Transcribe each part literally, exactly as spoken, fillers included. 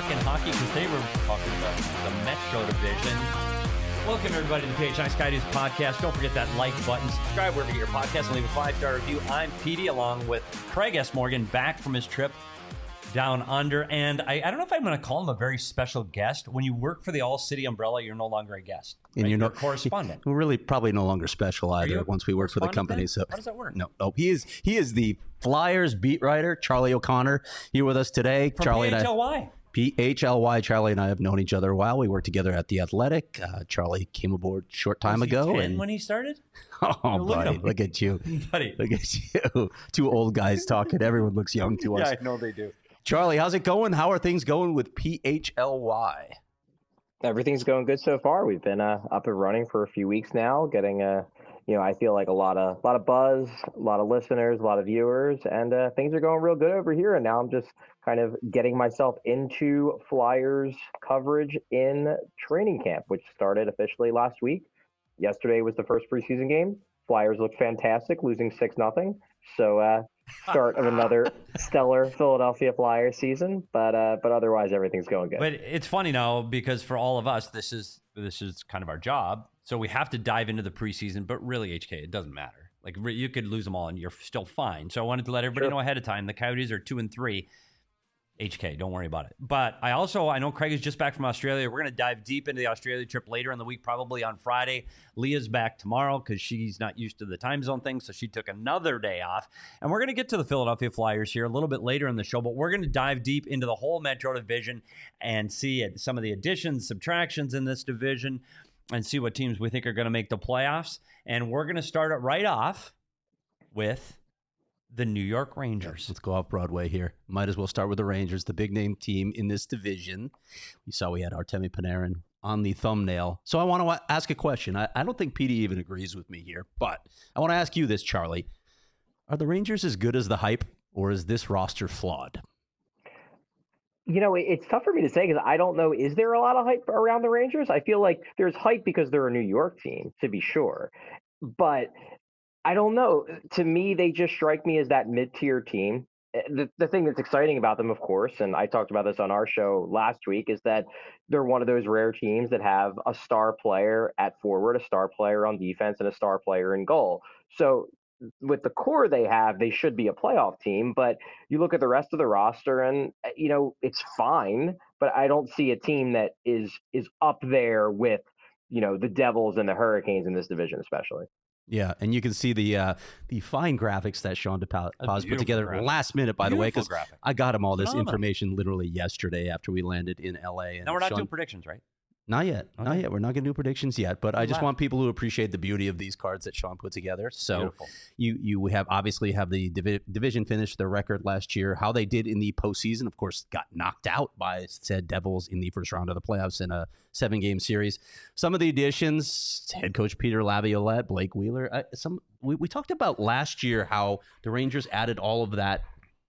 talking hockey because today we're talking about the Metro Division. Welcome, everybody, to the P H N I Sky News podcast. Don't forget that like button, subscribe wherever you get your podcast, and leave a five-star review. I'm Petey, along with Craig S. Morgan, back from his trip down under. And I, I don't know if I'm going to call him a very special guest. When you work for the All-City Umbrella, you're no longer a guest. Right? And you're, you're no, a correspondent. We're really probably no longer special either once we work for the company. Then? So how does that work? No, no, he is he is the Flyers beat writer, Charlie O'Connor, here with us today. From Charlie P H L Y. And I, P H L Y. Charlie and I have known each other a while. We worked together at the Athletic. Uh, Charlie came aboard a short time Was he ago. ten and when he started? Oh, Oh, look at buddy, him. look at you, Buddy. look at you. Two old guys talking. Everyone looks young to us. Yeah, I know they do. Charlie, how's it going? How are things going with P H L Y? Everything's going good so far. We've been uh, up and running for a few weeks now, getting uh, you know, I feel like a lot of a lot of buzz, a lot of listeners, a lot of viewers, and uh, things are going real good over here. And now I'm just kind of getting myself into Flyers coverage in training camp, which started officially last week. Yesterday was the first preseason game. Flyers looked fantastic, losing six nothing. So uh, start of another stellar Philadelphia Flyers season, but uh, but otherwise everything's going good. But it's funny now because for all of us, this is this is kind of our job. So we have to dive into the preseason, but really, H K, it doesn't matter. Like re- you could lose them all and you're still fine. So I wanted to let everybody Sure. know ahead of time. The Coyotes are two and three. H K, don't worry about it. But I also, I know Craig is just back from Australia. We're going to dive deep into the Australia trip later in the week, probably on Friday. Leah's back tomorrow because she's not used to the time zone thing, so she took another day off. And we're going to get to the Philadelphia Flyers here a little bit later in the show, but we're going to dive deep into the whole Metro Division and see it, some of the additions, subtractions in this division, and see what teams we think are going to make the playoffs. And we're going to start it right off with the New York Rangers. Let's go off Broadway here. Might as well start with the Rangers, the big name team in this division. We saw we had Artemi Panarin on the thumbnail. So I want to ask a question. I, I don't think Petey even agrees with me here, but I want to ask you this, Charlie. Are the Rangers as good as the hype, or is this roster flawed? You know, it- it's tough for me to say because I don't know. Is there a lot of hype around the Rangers? I feel like there's hype because they're a New York team, to be sure. But I don't know. To me, they just strike me as that mid-tier team. The, the thing that's exciting about them, of course, and I talked about this on our show last week, is that they're one of those rare teams that have a star player at forward, a star player on defense, and a star player in goal. So with the core they have, they should be a playoff team. But you look at the rest of the roster and, you know, it's fine, but I don't see a team that is is up there with, you know, the Devils and the Hurricanes in this division, especially. Yeah, and you can see the uh, the fine graphics that Sean DePaz put beautiful together graphic. last minute, by the way, Beautiful because graphic. I got him all this Phenomenal. information literally yesterday after we landed in L A. And Now we're not Sean, doing predictions, right? Not yet. Not Okay. yet. We're not going to do predictions yet, but I just Wow. want people to appreciate the beauty of these cards that Sean put together. So Beautiful. you you have obviously have the divi- division finish, their record last year, how they did in the postseason. Of course, got knocked out by said Devils in the first round of the playoffs in a seven-game series. Some of the additions: head coach Peter Laviolette, Blake Wheeler. Uh, some we, we talked about last year how the Rangers added all of that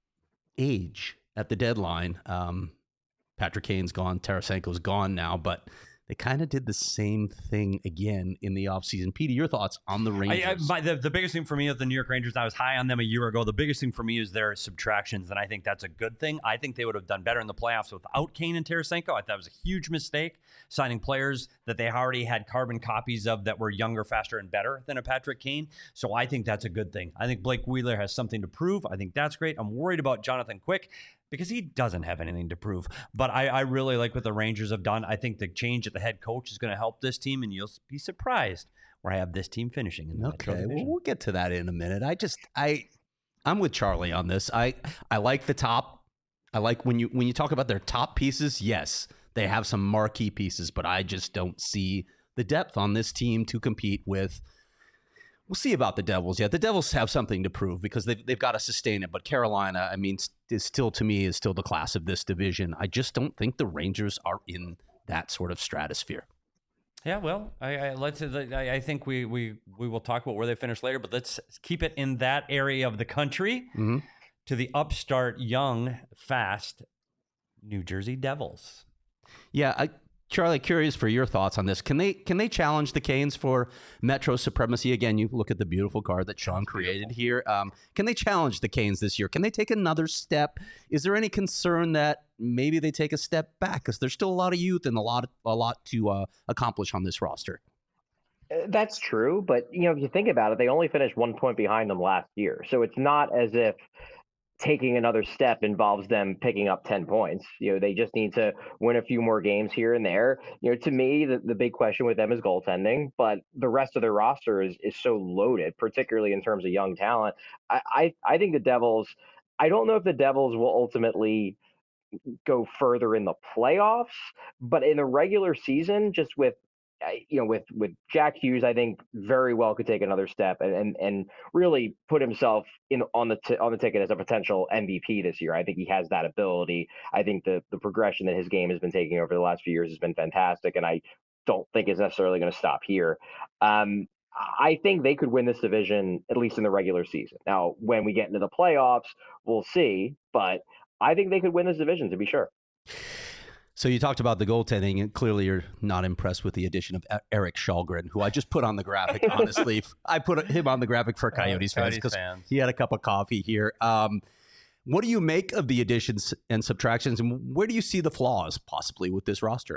age at the deadline. Um, Patrick Kane's gone, Tarasenko's gone now, but they kind of did the same thing again in the offseason. Petey, your thoughts on the Rangers? I, I, my, the, the biggest thing for me is the New York Rangers. I was high on them a year ago. The biggest thing for me is their subtractions, and I think that's a good thing. I think they would have done better in the playoffs without Kane and Tarasenko. I thought it was a huge mistake signing players that they already had carbon copies of that were younger, faster, and better than a Patrick Kane. So I think that's a good thing. I think Blake Wheeler has something to prove. I think that's great. I'm worried about Jonathan Quick because he doesn't have anything to prove. But I, I really like what the Rangers have done. I think the change at the head coach is going to help this team, and you'll be surprised where I have this team finishing in the Metro Okay, well, Division. we'll get to that in a minute. I just, I, I'm with Charlie on this. I, I like the top. I like when you when you talk about their top pieces. Yes, they have some marquee pieces, but I just don't see the depth on this team to compete with. We'll see about the Devils. Yeah, the Devils have something to prove because they've, they've got to sustain it. But Carolina, I mean, is still, to me, is still the class of this division. I just don't think the Rangers are in that sort of stratosphere. Yeah, well, I, I let's. I, I think we, we we will talk about where they finish later, but let's keep it in that area of the country Mm-hmm. to the upstart, young, fast New Jersey Devils. Yeah, I, Charlie, curious for your thoughts on this. Can they can they challenge the Canes for Metro supremacy? Again, you look at the beautiful card that Sean created here. Um, can they challenge the Canes this year? Can they take another step? Is there any concern that maybe they take a step back because there's still a lot of youth and a lot a lot to uh, accomplish on this roster? That's true, but you know, if you think about it, they only finished one point behind them last year, so it's not as if taking another step involves them picking up ten points. You know, they just need to win a few more games here and there. You know, to me, the, the big question with them is goaltending, but the rest of their roster is is so loaded, particularly in terms of young talent. I, I, I think the Devils, I don't know if the Devils will ultimately go further in the playoffs, but in the regular season, just with you know, with with Jack Hughes, I think very well could take another step and and, and really put himself in on the t- on the ticket as a potential M V P this year. I think he has that ability. I think the the progression that his game has been taking over the last few years has been fantastic, and I don't think it's necessarily going to stop here. Um, I think they could win this division at least in the regular season. Now, when we get into the playoffs, we'll see, but I think they could win this division to be sure. So you talked about the goaltending, and clearly you're not impressed with the addition of Eric Shalgren, who I just put on the graphic. Honestly, I put him on the graphic for Coyotes fans because he had a cup of coffee here. Um, what do you make of the additions and subtractions, and where do you see the flaws possibly with this roster?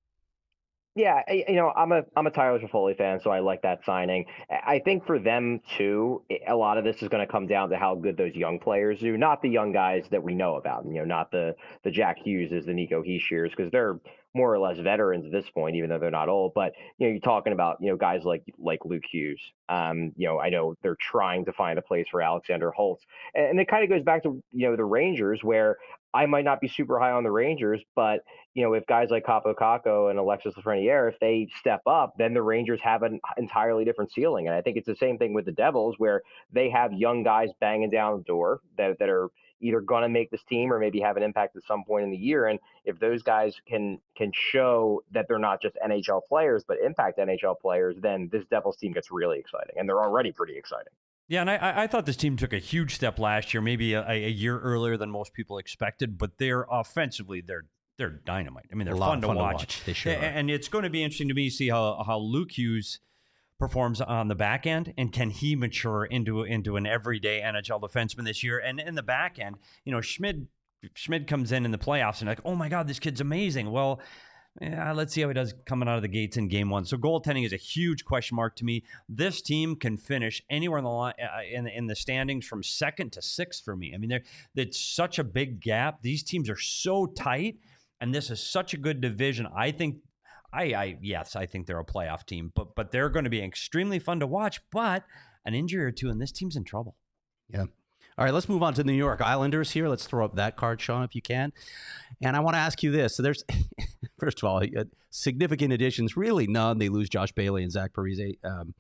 Yeah, you know, I'm a I'm a Tyler Toffoli fan, so I like that signing. I think for them too, a lot of this is going to come down to how good those young players do, not the young guys that we know about. You know, not the the Jack Hugheses, the Nico Hischiers, because they're more or less veterans at this point, even though they're not old. But you know, you're talking about you know guys like like Luke Hughes. Um, you know, I know they're trying to find a place for Alexander Holtz, and it kind of goes back to you know the Rangers, where I might not be super high on the Rangers, but you know, if guys like Capo Caco and Alexis Lafreniere, if they step up, then the Rangers have an entirely different ceiling. And I think it's the same thing with the Devils, where they have young guys banging down the door that, that are either going to make this team or maybe have an impact at some point in the year. And if those guys can can show that they're not just N H L players, but impact N H L players, then this Devils team gets really exciting. And they're already pretty exciting. Yeah, and I, I thought this team took a huge step last year, maybe a, a year earlier than most people expected, but they're offensively, they're they're dynamite. I mean, they're fun, to, fun watch. to watch. They sure and, are. and it's going to be interesting to me to see how, how Luke Hughes performs on the back end, and can he mature into into an everyday N H L defenseman this year? And in the back end, you know, Schmid Schmid comes in in the playoffs and like, oh my God, this kid's amazing. Well, yeah, let's see how he does coming out of the gates in game one. So goaltending is a huge question mark to me. This team can finish anywhere in the line, uh, in, in the standings from second to sixth for me. I mean, it's such a big gap. These teams are so tight, and this is such a good division. I think, I, I yes, I think they're a playoff team, but but they're going to be extremely fun to watch. But an injury or two, and this team's in trouble. Yeah. All right, let's move on to the New York Islanders here. Let's throw up that card, Sean, if you can. And I want to ask you this. So there's, first of all, significant additions, really none. They lose Josh Bailey and Zach Parise. Um,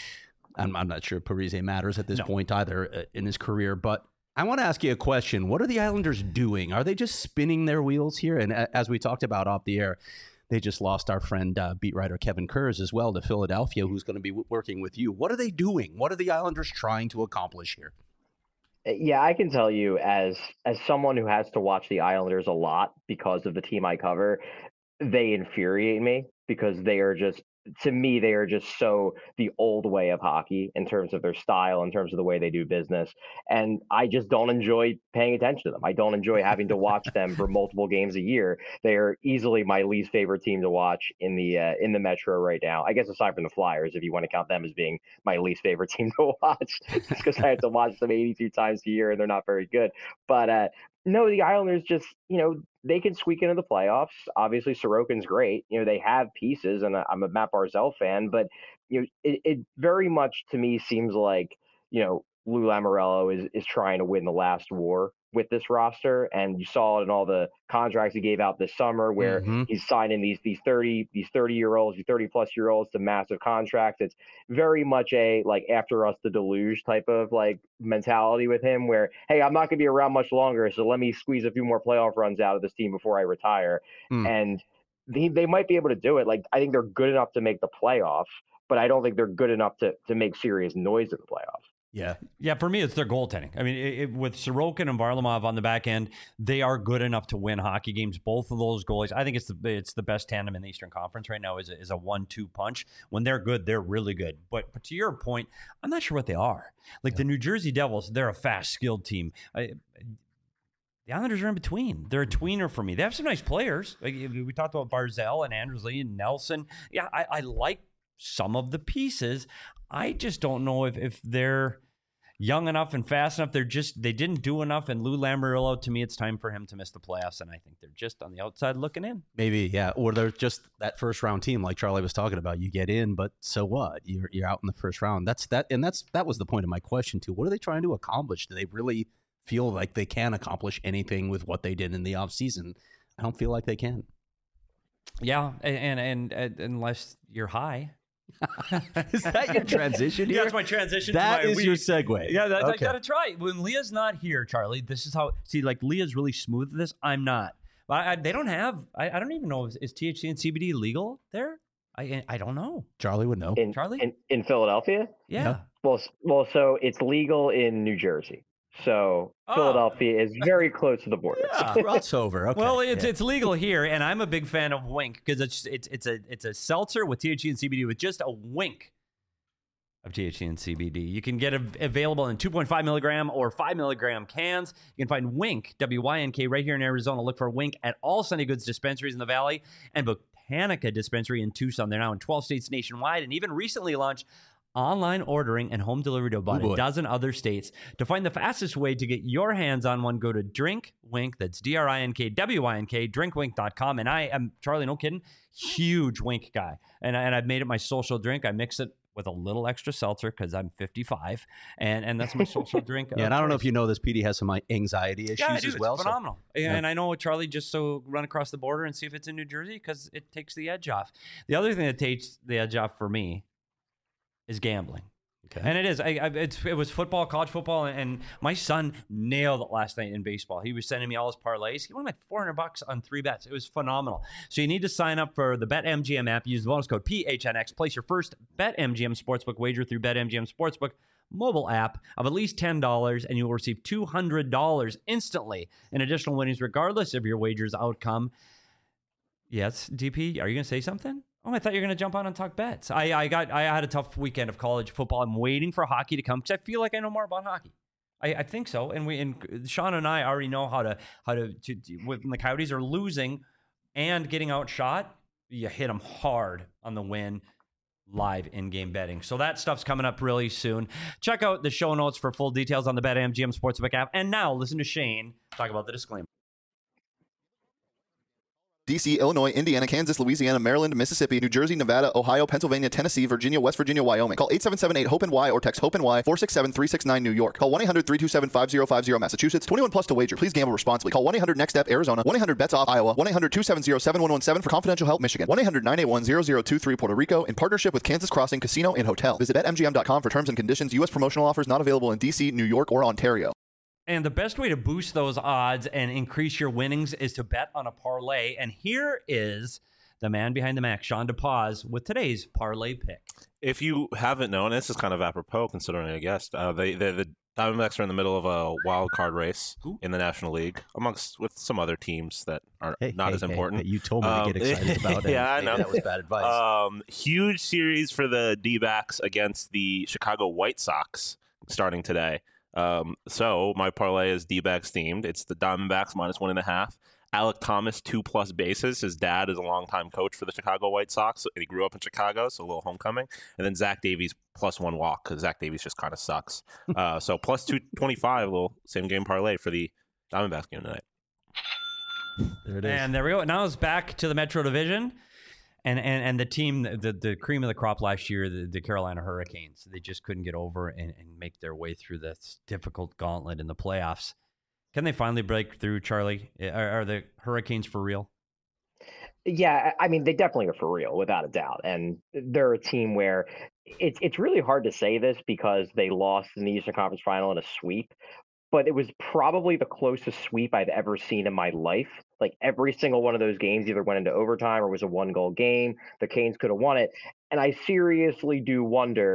I'm, I'm not sure Parise matters at this no. point either uh, in his career. But I want to ask you a question. What are the Islanders doing? Are they just spinning their wheels here? And uh, as we talked about off the air, they just lost our friend, uh, beat writer Kevin Kurz as well to Philadelphia, who's going to be w- working with you. What are they doing? What are the Islanders trying to accomplish here? Yeah, I can tell you as as someone who has to watch the Islanders a lot because of the team I cover, they infuriate me because they are just, to me, they are just so the old way of hockey in terms of their style, in terms of the way they do business. And I just don't enjoy paying attention to them. I don't enjoy having to watch them for multiple games a year. They are easily my least favorite team to watch in the uh, in the Metro right now. I guess aside from the Flyers, if you want to count them as being my least favorite team to watch, because I have to watch them eighty-two times a year and they're not very good. But uh, no, the Islanders just, you know, they can squeak into the playoffs. Obviously, Sorokin's great. You know, they have pieces, and I'm a Matt Barzal fan, but, you know, it, it very much to me seems like, you know, Lou Lamoriello is, is trying to win the last war with this roster. And you saw it in all the contracts he gave out this summer where mm-hmm. he's signing these these thirty these thirty year olds, these thirty plus year olds to massive contracts. It's very much a like after us the deluge type of like mentality with him where, hey, I'm not gonna be around much longer, so let me squeeze a few more playoff runs out of this team before I retire. Mm. And they, they might be able to do it. Like I think they're good enough to make the playoffs, but I don't think they're good enough to to make serious noise in the playoffs. Yeah. Yeah, for me, it's their goaltending. I mean, it, it, with Sorokin and Varlamov on the back end, they are good enough to win hockey games. Both of those goalies, I think it's the it's the best tandem in the Eastern Conference right now. Is a, is a one two punch. When they're good, they're really good. But, but to your point, I'm not sure what they are. Like yeah. the New Jersey Devils, they're a fast, skilled team. I, the Islanders are in between. They're a tweener for me. They have some nice players. Like, we talked about Barzal and Anders Lee and Nelson. Yeah, I, I like some of the pieces. I just don't know if if they're young enough and fast enough. They're just, they didn't do enough. And Lou Lamoriello, to me, it's time for him to miss the playoffs. And I think they're just on the outside looking in. Maybe, yeah. Or they're just that first round team like Charlie was talking about. You get in, but so what? You're you're out in the first round. That's that. And that's that was the point of my question too. What are they trying to accomplish? Do they really feel like they can accomplish anything with what they did in the offseason? I don't feel like they can. Yeah. And, and, and unless you're high. Is that your transition here? Yeah, that's my transition. That to my is week. your segue. Yeah, that, okay. I gotta try. When Leah's not here, Charlie, this is how. See, like Leah's really smooth at this. I'm not. But I, they don't have. I, I don't even know. Is, is T H C and C B D legal there? I I don't know. Charlie would know. In, Charlie in, in Philadelphia. Yeah. yeah. Well, well, so it's legal in New Jersey. So oh. Philadelphia is very close to the border. Yeah. Crossover. Okay. Well, it's yeah. it's legal here, and I'm a big fan of Wink because it's it's it's a it's a seltzer with T H C and C B D with just a wink of T H C and C B D. You can get it available in two point five milligram or five milligram cans. You can find Wink, W Y N K, right here in Arizona. Look for Wink at all Sunny Goods dispensaries in the Valley and Botanica Dispensary in Tucson. They're now in twelve states nationwide and even recently launched online ordering and home delivery to about Ooh, a dozen other states. To find the fastest way to get your hands on one, go to Drink Wink. That's D R I N K W I N K, drink wink dot com. And I am, Charlie, no kidding, huge Wink guy. And, and I've made it my social drink. I mix it with a little extra seltzer because I'm fifty-five, and and that's my social drink. Yeah, and I don't know if you know this, Petey has some anxiety issues yeah, I do. as well. It's phenomenal. So, and yeah. I know Charlie just so run across the border and see if it's in New Jersey because it takes the edge off. The other thing that takes the edge off for me is gambling. Okay. And it is. I, I, it's, it was football, college football, and, and my son nailed it last night in baseball. He was sending me all his parlays. He won like four hundred bucks on three bets. It was phenomenal. So you need to sign up for the BetMGM app. Use the bonus code P H N X. Place your first BetMGM Sportsbook wager through BetMGM Sportsbook mobile app of at least ten dollars, and you will receive two hundred dollars instantly in additional winnings, regardless of your wager's outcome. Yes, D P, are you going to say something? Oh, I thought you were going to jump on and talk bets. I, I got I had a tough weekend of college football. I'm waiting for hockey to come because I feel like I know more about hockey. I, I think so. And we and Sean and I already know how to how to, to, to when the Coyotes are losing and getting outshot, you hit them hard on the win. Live in-game betting. So that stuff's coming up really soon. Check out the show notes for full details on the BetMGM Sportsbook app. And now listen to Shane talk about the disclaimer. D C, Illinois, Indiana, Kansas, Louisiana, Maryland, Mississippi, New Jersey, Nevada, Ohio, Pennsylvania, Tennessee, Virginia, West Virginia, Wyoming. Call eight seven seven eight HOPE-NY or text HOPE-NY four six seven three six nine New York. Call one eight hundred three two seven five zero five zero Massachusetts. twenty-one plus to wager. Please gamble responsibly. Call one eight hundred next step Arizona. one eight hundred bets off Iowa. one eight hundred two seven zero seven one one seven for confidential help Michigan. one eight hundred nine eight one zero zero two three Puerto Rico in partnership with Kansas Crossing Casino and Hotel. Visit bet M G M dot com for terms and conditions. U S promotional offers not available in D C, New York, or Ontario. And the best way to boost those odds and increase your winnings is to bet on a parlay. And here is the man behind the Mac, Sean DePaz, with today's parlay pick. If you haven't known, this is kind of apropos considering I guessed uh, they, they, the Diamondbacks are in the middle of a wild card race Ooh. in the National League, amongst with some other teams that are hey, not hey, as hey, important. Hey, you told me um, to get excited about it. Yeah, I know. That was bad advice. Um, huge series for the D-backs against the Chicago White Sox starting today. Um, so my parlay is D-backs themed. It's the Diamondbacks minus one and a half. Alec Thomas, two plus bases. His dad is a longtime coach for the Chicago White Sox, and he grew up in Chicago, so a little homecoming. And then Zach Davies plus one walk, because Zach Davies just kind of sucks. uh, so plus two twenty-five, a little same game parlay for the Diamondbacks game tonight. There it is. And there we go. Now it's back to the Metro Division. And, and and the team, the, the cream of the crop last year, the, the Carolina Hurricanes, they just couldn't get over and, and make their way through this difficult gauntlet in the playoffs. Can they finally break through, Charlie? Are, are the Hurricanes for real? Yeah, I mean, they definitely are for real, without a doubt. And they're a team where it's it's really hard to say this because they lost in the Eastern Conference Final in a sweep, but it was probably the closest sweep I've ever seen in my life. Like every single one of those games either went into overtime or was a one-goal game. The Canes could have won it. And I seriously do wonder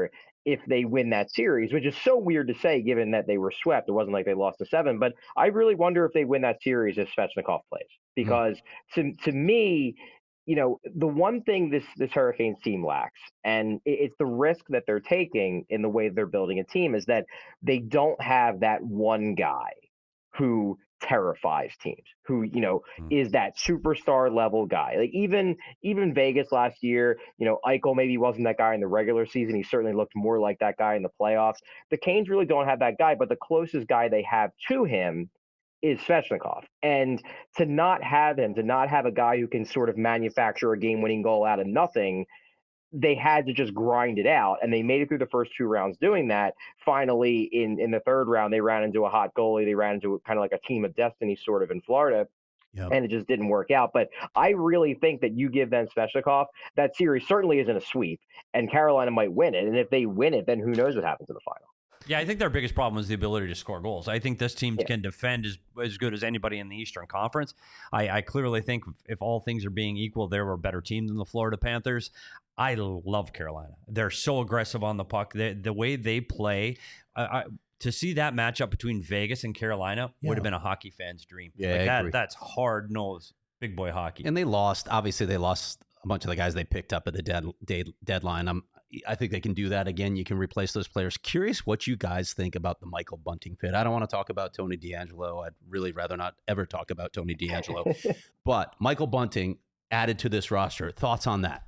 if they win that series, which is so weird to say given that they were swept. It wasn't like they lost to seven, but I really wonder if they win that series if Svechnikov plays. Because mm. to to me, you know, the one thing this this Hurricanes team lacks, and it's the risk that they're taking in the way they're building a team, is that they don't have that one guy who terrifies teams, who, you know, mm. is that superstar level guy. Like even even Vegas last year, you know, Eichel maybe wasn't that guy in the regular season. He certainly looked more like that guy in the playoffs. The Canes really don't have that guy, but the closest guy they have to him is Svechnikov. And to not have him, to not have a guy who can sort of manufacture a game-winning goal out of nothing, they had to just grind it out, and they made it through the first two rounds doing that. Finally, in, in the third round, they ran into a hot goalie. They ran into kind of like a team of destiny sort of in Florida, yep. and it just didn't work out. But I really think that you give them Svechnikov, that series certainly isn't a sweep, and Carolina might win it. And if they win it, then who knows what happens in the final. Yeah, I think their biggest problem is the ability to score goals. I think this team yeah. can defend as, as good as anybody in the Eastern Conference. I, I clearly think if all things are being equal, they were a better team than the Florida Panthers. I love Carolina. They're so aggressive on the puck. They, the way they play, uh, I, to see that matchup between Vegas and Carolina yeah. would have been a hockey fan's dream. Yeah, like I that, agree. That's hard-nosed big boy hockey. And they lost. Obviously, they lost a bunch of the guys they picked up at the dead, day, deadline. I'm I think they can do that again. You can replace those players. Curious what you guys think about the Michael Bunting fit. I don't want to talk about Tony DeAngelo. I'd really rather not ever talk about Tony DeAngelo. But Michael Bunting added to this roster. Thoughts on that?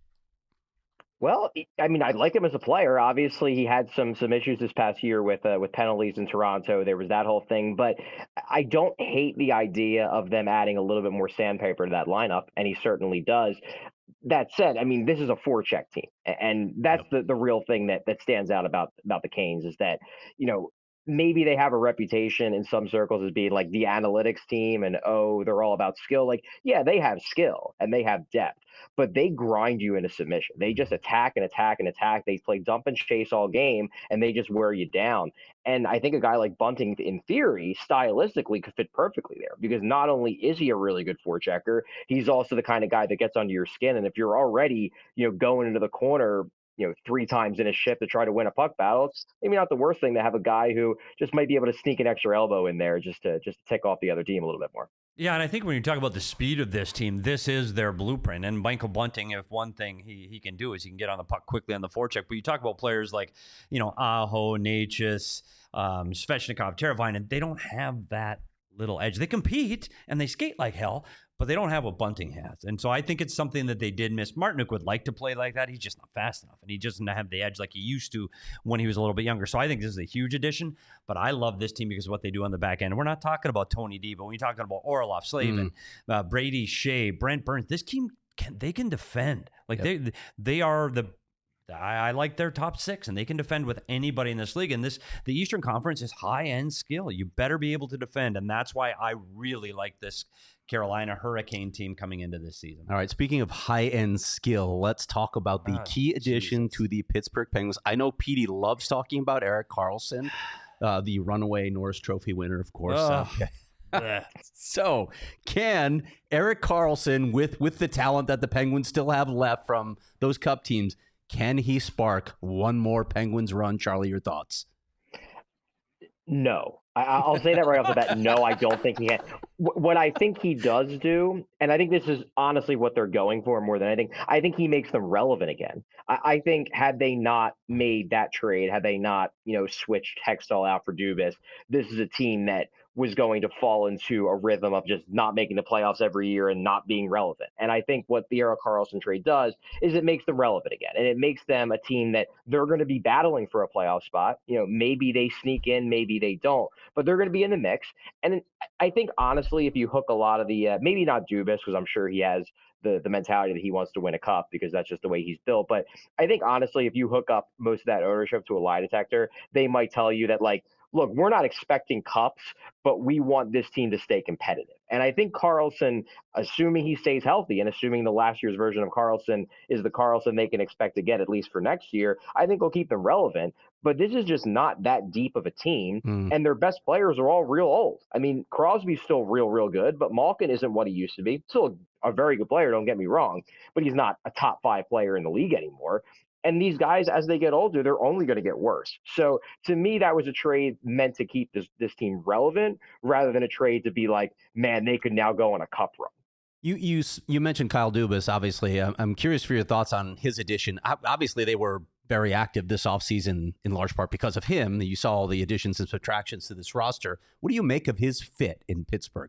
Well, I mean, I like him as a player. Obviously, he had some some issues this past year with uh, with penalties in Toronto. There was that whole thing. But I don't hate the idea of them adding a little bit more sandpaper to that lineup, and he certainly does. That said, I mean, this is a four-check team, and that's the, the real thing that, that stands out about, about the Canes is that, you know, maybe they have a reputation in some circles as being like the analytics team and, oh, they're all about skill. Like, yeah, they have skill and they have depth, but they grind you into submission. They just attack and attack and attack. They play dump and chase all game, and they just wear you down. And I think a guy like Bunting, in theory, stylistically could fit perfectly there because not only is he a really good forechecker, he's also the kind of guy that gets under your skin. And if you're already, you know, going into the corner, you know, three times in a shift to try to win a puck battle, it's maybe not the worst thing to have a guy who just might be able to sneak an extra elbow in there just to just to tick off the other team a little bit more. Yeah, and I think when you talk about the speed of this team, this is their blueprint. And Michael Bunting, if one thing he he can do is he can get on the puck quickly on the forecheck. But you talk about players like, you know, Aho, Necas, um, Svechnikov, Teravainen, they don't have that little edge. They compete and they skate like hell, but they don't have what Bunting has. And so I think it's something that they did miss. Martinook would like to play like that. He's just not fast enough, and he doesn't have the edge like he used to when he was a little bit younger. So I think this is a huge addition, but I love this team because of what they do on the back end. We're not talking about Tony D, but when you're talking about Orlov, Slavin, mm. uh, Brady, Shea, Brent Burns, this team, can they can defend. Like yep. they they are the I, I like their top six, and they can defend with anybody in this league. And this, the Eastern Conference is high-end skill. You better be able to defend, and that's why I really like this Carolina Hurricane team coming into this season. All right, speaking of high-end skill, let's talk about the oh, key addition Jesus. to the Pittsburgh Penguins. I know Petey loves talking about Erik Karlsson, uh, the runaway Norris Trophy winner, of course. Oh. Uh, so, can Erik Karlsson, with with the talent that the Penguins still have left from those Cup teams, can he spark one more Penguins run? Charlie, your thoughts? No. I, I'll say that right off the bat. No, I don't think he can. What I think he does do, and I think this is honestly what they're going for more than anything, I think he makes them relevant again. I, I think had they not made that trade, had they not, you know, switched Hextall out for Dubas, this is a team that was going to fall into a rhythm of just not making the playoffs every year and not being relevant. And I think what the Erik Karlsson trade does is it makes them relevant again. And it makes them a team that they're going to be battling for a playoff spot. You know, maybe they sneak in, maybe they don't, but they're going to be in the mix. And I think, honestly, if you hook a lot of the, uh, maybe not Dubas, because I'm sure he has the, the mentality that he wants to win a cup because that's just the way he's built. But I think, honestly, if you hook up most of that ownership to a lie detector, they might tell you that, like, look, we're not expecting cups, but we want this team to stay competitive. And I think Karlsson, assuming he stays healthy and assuming the last year's version of Karlsson is the Karlsson they can expect to get at least for next year, I think will keep them relevant. But this is just not that deep of a team, mm. and their best players are all real old. I mean, Crosby's still real, real good, but Malkin isn't what he used to be. Still a very good player, don't get me wrong, but he's not a top five player in the league anymore. And these guys, as they get older, they're only going to get worse. So to me, that was a trade meant to keep this, this team relevant rather than a trade to be like, man, they could now go on a cup run. You you you mentioned Kyle Dubas. Obviously, I'm, I'm curious for your thoughts on his addition. Obviously, they were very active this offseason in large part because of him. You saw all the additions and subtractions to this roster. What do you make of his fit in Pittsburgh?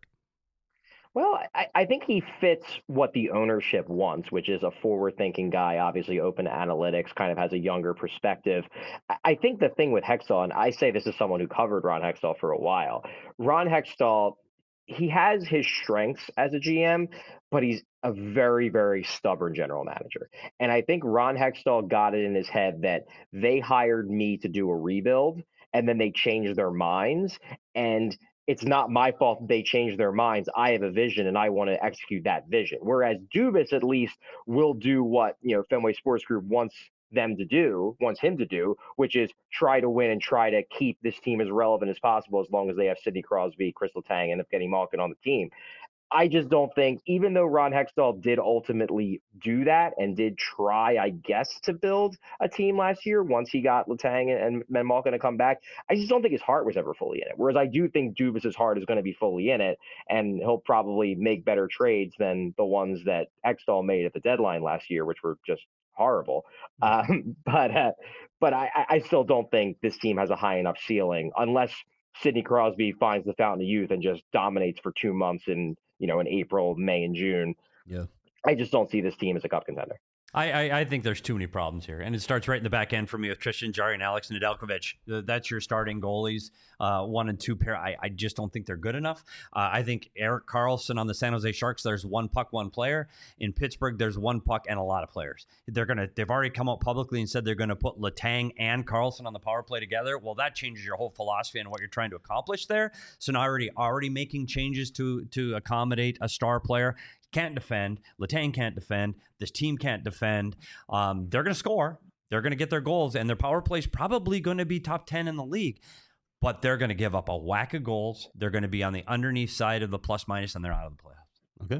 Well, I, I think he fits what the ownership wants, which is a forward-thinking guy, obviously open to analytics, kind of has a younger perspective. I, I think the thing with Hextall, and I say this as someone who covered Ron Hextall for a while, Ron Hextall, he has his strengths as a G M, but he's a very, very stubborn general manager. And I think Ron Hextall got it in his head that they hired me to do a rebuild, and then they changed their minds. And it's not my fault that they changed their minds. I have a vision and I want to execute that vision. Whereas Dubas at least will do what, you know, Fenway Sports Group wants them to do, wants him to do, which is try to win and try to keep this team as relevant as possible as long as they have Sidney Crosby, Chris Letang, and Evgeny Malkin on the team. I just don't think, even though Ron Hextall did ultimately do that and did try, I guess, to build a team last year once he got Letang and, and Malkin to come back, I just don't think his heart was ever fully in it. Whereas I do think Dubas's heart is going to be fully in it, and he'll probably make better trades than the ones that Hextall made at the deadline last year, which were just horrible. Um, but uh, but I, I still don't think this team has a high enough ceiling unless Sidney Crosby finds the fountain of youth and just dominates for two months in, you know, in April, May, and June. Yeah. I just don't see this team as a cup contender. I, I, I think there's too many problems here. And it starts right in the back end for me with Tristan Jarry and Alex Nedeljkovic. That's your starting goalies, uh, one and two pair. I, I just don't think they're good enough. Uh, I think Erik Karlsson on the San Jose Sharks, there's one puck, one player. In Pittsburgh, there's one puck and a lot of players. They're gonna. They've already come out publicly and said they're going to put Letang and Karlsson on the power play together. Well, that changes your whole philosophy and what you're trying to accomplish there. So now already already making changes to to accommodate a star player. Can't defend. Letang can't defend. This team can't defend. Um, they're going to score. They're going to get their goals, and their power play is probably going to be top ten in the league. But they're going to give up a whack of goals. They're going to be on the underneath side of the plus minus, and they're out of the playoffs. Okay.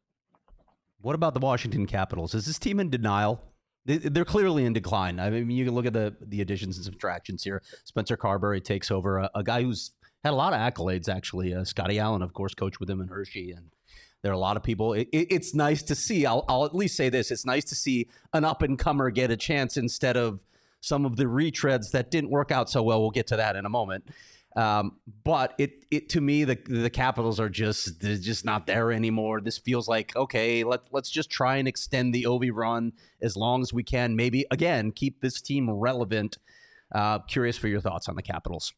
What about the Washington Capitals? Is this team in denial? They're clearly in decline. I mean, you can look at the the additions and subtractions here. Spencer Carberry takes over, a, a guy who's had a lot of accolades, actually. Uh, Scotty Allen, of course, coached with him in Hershey, and there are a lot of people. It, it, it's nice to see. I'll, I'll at least say this. It's nice to see an up-and-comer get a chance instead of some of the retreads that didn't work out so well. We'll get to that in a moment. Um, but it, it to me, the the Capitals are just they're just not there anymore. This feels like, okay, let, let's just try and extend the Ovi run as long as we can. Maybe, again, keep this team relevant. Uh, curious for your thoughts on the Capitals.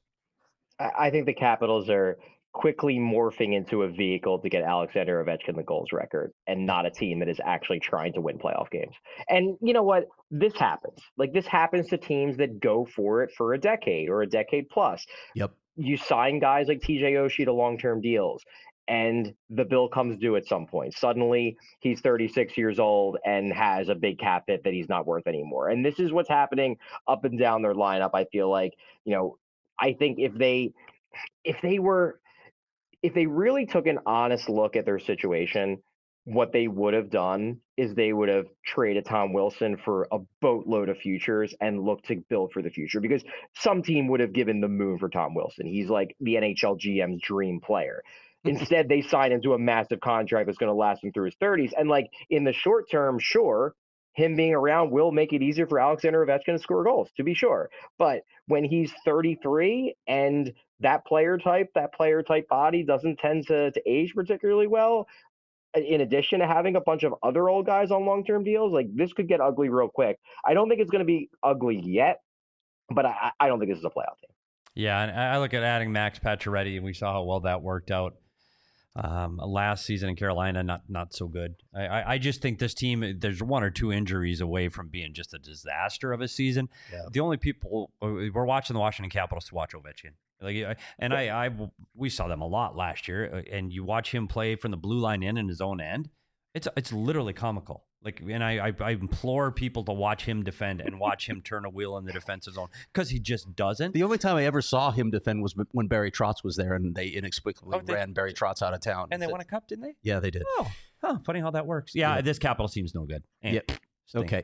I think the Capitals are quickly morphing into a vehicle to get Alexander Ovechkin the goals record and not a team that is actually trying to win playoff games. And you know what? This happens. Like this happens to teams that go for it for a decade or a decade plus. Yep. You sign guys like T J Oshie to long-term deals and the bill comes due at some point. Suddenly he's thirty-six years old and has a big cap hit that he's not worth anymore. And this is what's happening up and down their lineup. I feel like, you know, I think if they, if they were, if they really took an honest look at their situation, what they would have done is they would have traded Tom Wilson for a boatload of futures and looked to build for the future, because some team would have given the moon for Tom Wilson. He's like the N H L G M's dream player. Instead, they signed him to a massive contract that's going to last him through his thirties. And like in the short term, sure, him being around will make it easier for Alexander Ovechkin to score goals, to be sure. But when he's thirty-three and that player type, that player type body doesn't tend to, to age particularly well, in addition to having a bunch of other old guys on long-term deals, like this could get ugly real quick. I don't think it's going to be ugly yet, but I, I don't think this is a playoff team. Yeah, and I look at adding Max Pacioretty, and we saw how well that worked out um, last season in Carolina. Not not so good. I, I, I just think this team, there's one or two injuries away from being just a disaster of a season. Yeah. The only people, we're watching the Washington Capitals to watch Ovechkin. Like, and I, I, we saw them a lot last year, and you watch him play from the blue line in in his own end. It's it's literally comical. Like, and I, I, I implore people to watch him defend and watch him turn a wheel in the defensive zone, because he just doesn't. The only time I ever saw him defend was when Barry Trotz was there, and they inexplicably oh, they, ran Barry Trotz out of town. And they won a cup, didn't they? Yeah, they did. Oh, huh, funny how that works. Yeah, yeah. This Capital team's no good. And yep. Okay.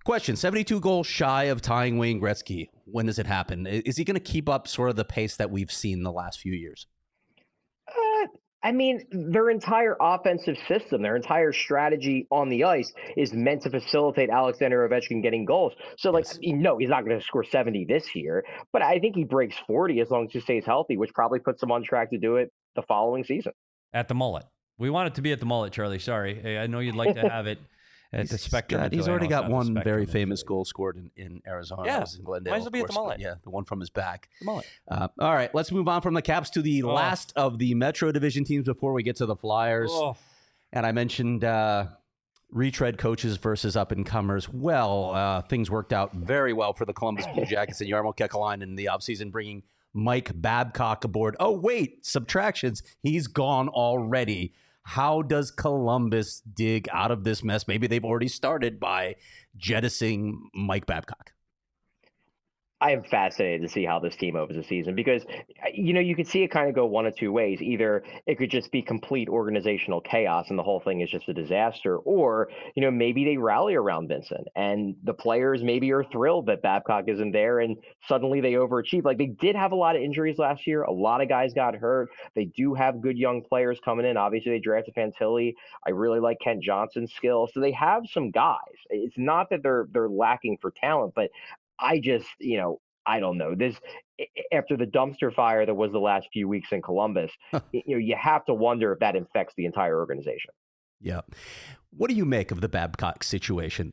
Question, seventy-two goals shy of tying Wayne Gretzky. When does it happen? Is he going to keep up sort of the pace that we've seen the last few years? Uh, I mean, their entire offensive system, their entire strategy on the ice is meant to facilitate Alexander Ovechkin getting goals. So, like, Yes. no, he's not going to score seventy this year, but I think he breaks forty as long as he stays healthy, which probably puts him on track to do it the following season. At the mullet. We want it to be at the mullet, Charlie. Sorry. I know you'd like to have it at the Spectrum. God, he's I already know it's got not the one Spectrum, very it's famous the- goal scored in, in Arizona. Yeah. That was in Glendale. Might as well of be at the course, but mullet. Yeah, the one from his back. The mullet. Uh, all right, let's move on from the Caps to the Oh. last of the Metro Division teams before we get to the Flyers. Oh. And I mentioned uh, retread coaches versus up-and-comers. Well, uh, things worked out very well for the Columbus Blue Jackets and Jarmo Kekalainen in the offseason, bringing Mike Babcock aboard. Oh, wait, subtractions. He's gone already. How does Columbus dig out of this mess? Maybe they've already started by jettisoning Mike Babcock. I am fascinated to see how this team opens the season because, you know, you could see it kind of go one of two ways. Either it could just be complete organizational chaos and the whole thing is just a disaster, or, you know, maybe they rally around Vincent and the players maybe are thrilled that Babcock isn't there and suddenly they overachieve. Like, they did have a lot of injuries last year. A lot of guys got hurt. They do have good young players coming in. Obviously, they drafted Fantilli. I really like Kent Johnson's skill. So they have some guys. It's not that they're they're lacking for talent, but I just, you know, I don't know. This after the dumpster fire that was the last few weeks in Columbus, you know, you have to wonder if that infects the entire organization. Yeah. What do you make of the Babcock situation?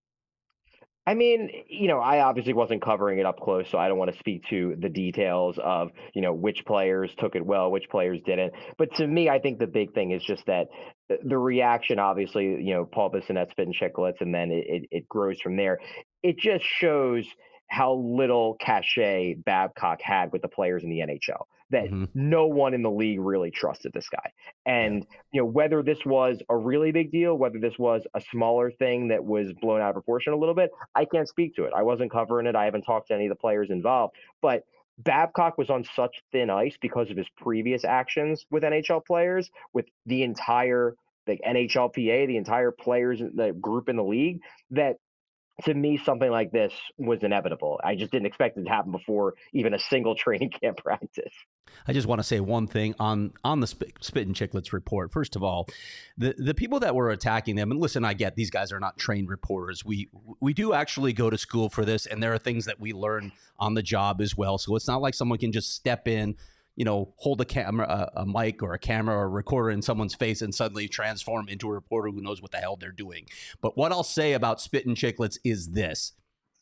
I mean, you know, I obviously wasn't covering it up close, so I don't want to speak to the details of, you know, which players took it well, which players didn't. But to me, I think the big thing is just that the reaction, obviously, you know, Paul Bissonnette, Spit and Chicklets, and then it, it, it grows from there. It just shows how little cachet Babcock had with the players in the N H L, that Mhm. no one in the league really trusted this guy. And, you know, whether this was a really big deal, whether this was a smaller thing that was blown out of proportion a little bit, I can't speak to it. I wasn't covering it. I haven't talked to any of the players involved, but Babcock was on such thin ice because of his previous actions with N H L players, with the entire like N H L P A, the entire players, the group in the league, that to me, something like this was inevitable. I just didn't expect it to happen before even a single training camp practice. I just want to say one thing on on the Spit, Spit and Chicklets report. First of all, the the people that were attacking them, and listen, I get these guys are not trained reporters. We we do actually go to school for this, and there are things that we learn on the job as well. So it's not like someone can just step in, you know, hold a camera, a, a mic or a camera or a recorder in someone's face and suddenly transform into a reporter who knows what the hell they're doing. But what I'll say about Spit and Chicklets is this.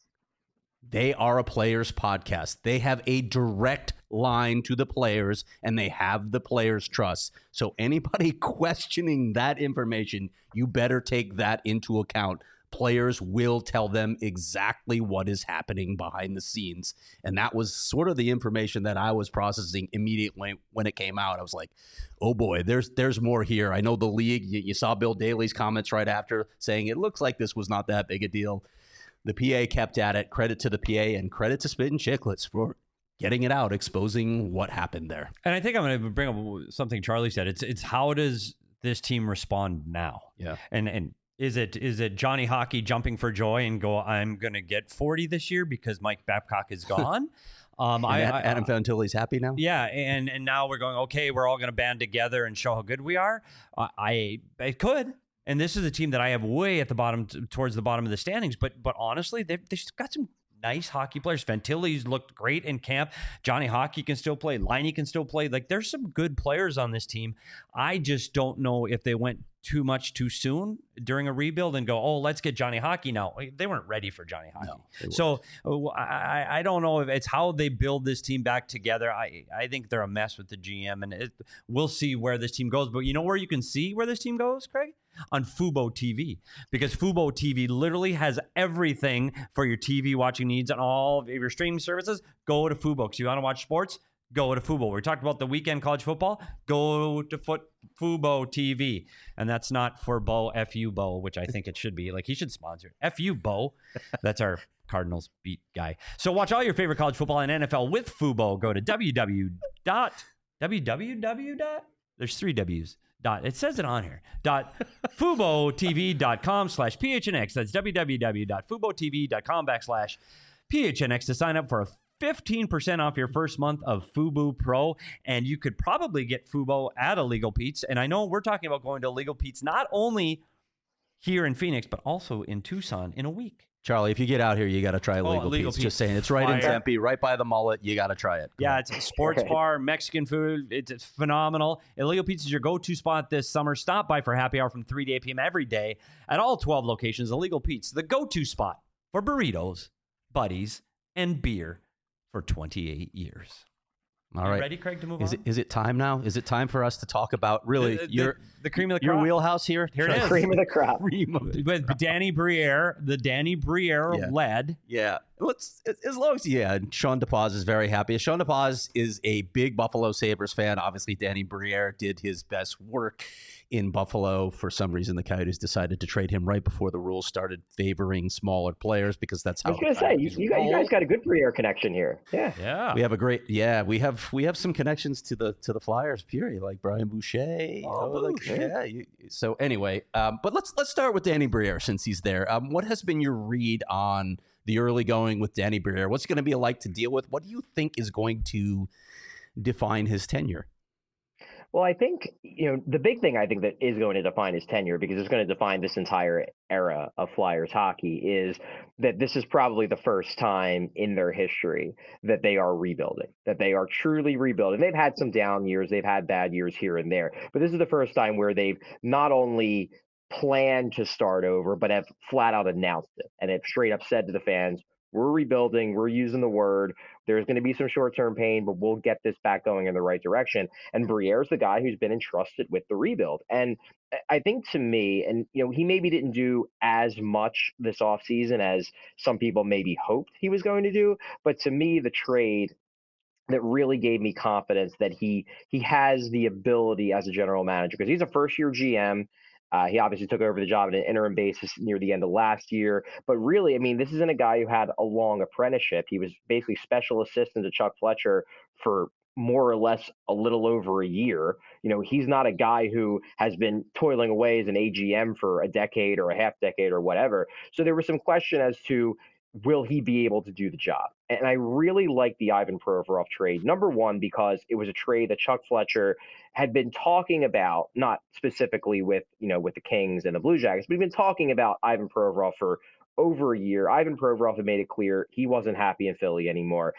They are a players podcast. They have a direct line to the players and they have the players' trust. So anybody questioning that information, you better take that into account. Players will tell them exactly what is happening behind the scenes. And that was sort of the information that I was processing immediately when it came out. I was like, oh boy, there's there's more here. I know the league, you, you saw Bill Daly's comments right after saying it looks like this was not that big a deal. The P A kept at it. Credit to the P A and credit to Spit and Chicklets for getting it out, exposing what happened there. And I think I'm going to bring up something Charlie said. It's it's how does this team respond now? Yeah. And and is it is it Johnny Hockey jumping for joy and go, I'm going to get forty this year because Mike Babcock is gone? um, I, And I, Adam Fantilli's happy now? Yeah, and and now we're going, okay, we're all going to band together and show how good we are. Uh, I it could. And this is a team that I have way at the bottom, t- towards the bottom of the standings. But but honestly, they've, they've got some nice hockey players. Fantilli's looked great in camp. Johnny Hockey can still play. Liney can still play. Like, there's some good players on this team. I just don't know if they went too much too soon during a rebuild and go, oh, let's get Johnny Hockey now. They weren't ready for Johnny Hockey. No, they so uh, I, I don't know if it's how they build this team back together. I, I think they're a mess with the G M, and it, we'll see where this team goes. But you know where you can see where this team goes, Craig? On Fubo T V, because Fubo T V literally has everything for your T V watching needs on all of your streaming services. Go to Fubo. Because you want to watch sports, go to Fubo. We talked about the weekend college football. Go to foot Fubo T V. And that's not for Bo, F U Bo, which I think it should be. Like, he should sponsor it. F U Bo. That's our Cardinals beat guy. So watch all your favorite college football and N F L with Fubo. Go to www. www. There's three W's. Dot, it says it on here. Dot FuboTV.com slash PHNX. That's www.FuboTV.com backslash PHNX to sign up for a fifteen percent off your first month of Fubo Pro. And you could probably get Fubo at a Legal Pete's. And I know we're talking about going to Legal Pete's not only here in Phoenix, but also in Tucson in a week. Charlie, if you get out here, you got to try Oh, Legal, Legal Pete's. Pete's. Just saying, it's right in Fire. Tempe, right by the mullet. You got to try it. Go Yeah, on. it's a sports bar, Mexican food. It's, it's phenomenal. Illegal Pizza is your go-to spot this summer. Stop by for happy hour from three to eight p.m. every day at all twelve locations. Illegal Pizza, the go-to spot for burritos, buddies, and beer for twenty-eight years. All You right. ready, Craig, to move Is on? it is it time now? Is it time for us to talk about really The- the- your the cream of the your crop. wheelhouse here? Here it Charlie? is. Cream of the crop. Cream of the With Danny Briere, the Danny Briere Yeah. led. Yeah. Let's as long as yeah, and Sean DePaz is very happy. Sean DePaz is a big Buffalo Sabres fan. Obviously, Danny Briere did his best work in Buffalo. For some reason, the Coyotes decided to trade him right before the rules started favoring smaller players because that's I how was going to say, you, Coyotes you, guys, you roll. guys got a good Briere connection here. Yeah. Yeah. We have a great yeah. We have we have some connections to the to the Flyers. Period, like Brian Boucher. Oh, like, Boucher. yeah. You, so anyway, um, but let's let's start with Danny Briere since he's there. Um, what has been your read on the early going with Danny Briere? What's it going to be like to deal with? What do you think is going to define his tenure? Well, I think, you know, the big thing I think that is going to define his tenure, because it's going to define this entire era of Flyers hockey, is that this is probably the first time in their history that they are rebuilding, that they are truly rebuilding. They've had some down years, they've had bad years here and there, but this is the first time where they've not only planned to start over, but have flat out announced it and have straight up said to the fans, we're rebuilding, we're using the word, there's going to be some short-term pain, but we'll get this back going in the right direction. And Briere's the guy who's been entrusted with the rebuild. And I think to me, and you know, he maybe didn't do as much this offseason as some people maybe hoped he was going to do, but to me, the trade that really gave me confidence that he he has the ability as a general manager, because he's a first-year G M. Uh, he obviously took over the job on an interim basis near the end of last year. But really, I mean, this isn't a guy who had a long apprenticeship. He was basically special assistant to Chuck Fletcher for more or less a little over a year. You know, he's not a guy who has been toiling away as an A G M for a decade or a half decade or whatever. So there was some question as to, will he be able to do the job? And I really like the Ivan Provorov trade. Number one, because it was a trade that Chuck Fletcher had been talking about, not specifically with, you know, with the Kings and the Blue Jackets, but he'd been talking about Ivan Provorov for over a year. Ivan Provorov had made it clear he wasn't happy in Philly anymore.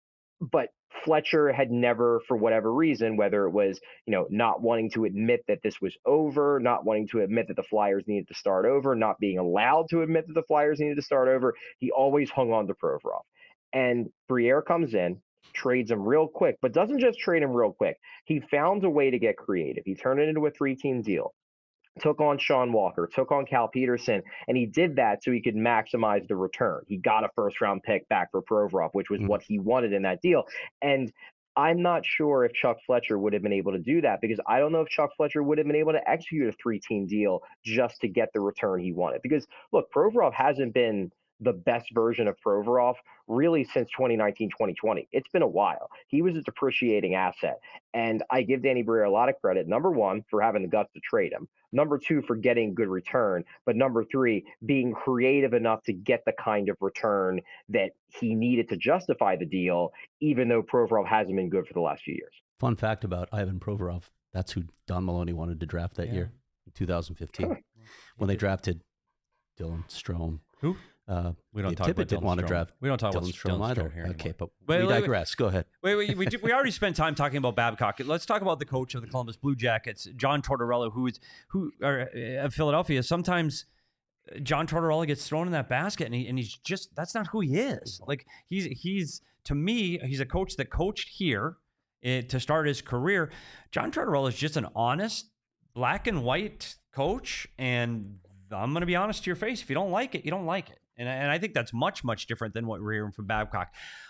But Fletcher had never, for whatever reason, whether it was, you know, not wanting to admit that this was over, not wanting to admit that the Flyers needed to start over, not being allowed to admit that the Flyers needed to start over, he always hung on to Provorov. And Briere comes in, trades him real quick, but doesn't just trade him real quick. He found a way to get creative. He turned it into a three-team deal. Took on Sean Walker, took on Cal Peterson, and he did that so he could maximize the return. He got a first-round pick back for Provorov, which was mm-hmm. what he wanted in that deal. And I'm not sure if Chuck Fletcher would have been able to do that, because I don't know if Chuck Fletcher would have been able to execute a three-team deal just to get the return he wanted. Because, look, Provorov hasn't been the best version of Provorov really since twenty nineteen, twenty twenty. It's been a while. He was a depreciating asset. And I give Danny Briere a lot of credit, number one, for having the guts to trade him. Number two, for getting good return. But number three, being creative enough to get the kind of return that he needed to justify the deal, even though Provorov hasn't been good for the last few years. Fun fact about Ivan Provorov, that's who Don Maloney wanted to draft that yeah. year, in two thousand fifteen, huh. when they drafted Dylan Strome. Who? Uh, we don't Dave talk Tippett about didn't Dylan want to Strome. draft. We don't talk Dylan about Strome Dylan either. Strome here okay, but wait, we wait, digress. Wait, Go ahead. Wait, wait, we, we already spent time talking about Babcock. Let's talk about the coach of the Columbus Blue Jackets, John Tortorella, who is who are uh, Philadelphia. Sometimes John Tortorella gets thrown in that basket, and he and he's just that's not who he is. Like he's he's to me, he's a coach that coached here uh, to start his career. John Tortorella is just an honest, black and white coach, and I'm going to be honest to your face. If you don't like it, you don't like it. And, and I think that's much, much different than what we're hearing from Babcock.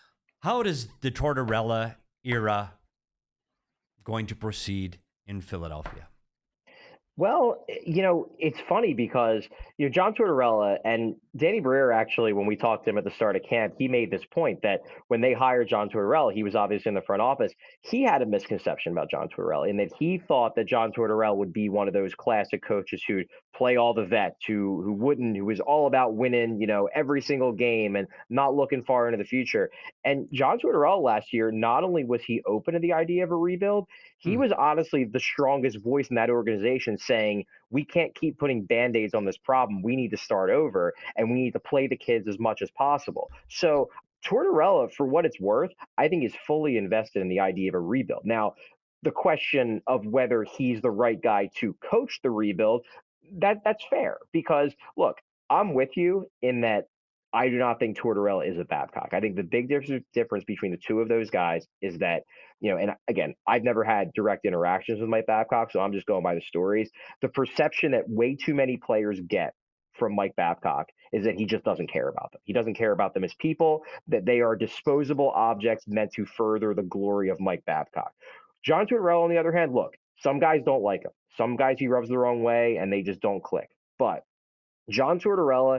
How does the Tortorella era going to proceed in Philadelphia? Well, you know, it's funny because, you know, John Tortorella and Danny Briere actually, when we talked to him at the start of camp, he made this point that when they hired John Tortorella, he was obviously in the front office. He had a misconception about John Tortorella in that he thought that John Tortorella would be one of those classic coaches who'd play all the vets, who who wouldn't, who was all about winning, you know, every single game and not looking far into the future. And John Tortorella last year, not only was he open to the idea of a rebuild, he Hmm. was honestly the strongest voice in that organization saying, we can't keep putting band-aids on this problem. We need to start over and we need to play the kids as much as possible. So Tortorella, for what it's worth, I think is fully invested in the idea of a rebuild. Now, the question of whether he's the right guy to coach the rebuild, that that's fair because look, I'm with you in that I do not think Tortorella is a Babcock. I think the big difference difference between the two of those guys is that, you know, and again, I've never had direct interactions with Mike Babcock, so I'm just going by the stories. The perception that way too many players get from Mike Babcock is that he just doesn't care about them. He doesn't care about them as people, that they are disposable objects meant to further the glory of Mike Babcock. John Tortorella, on the other hand, look, some guys don't like him. Some guys he rubs the wrong way and they just don't click. But John Tortorella,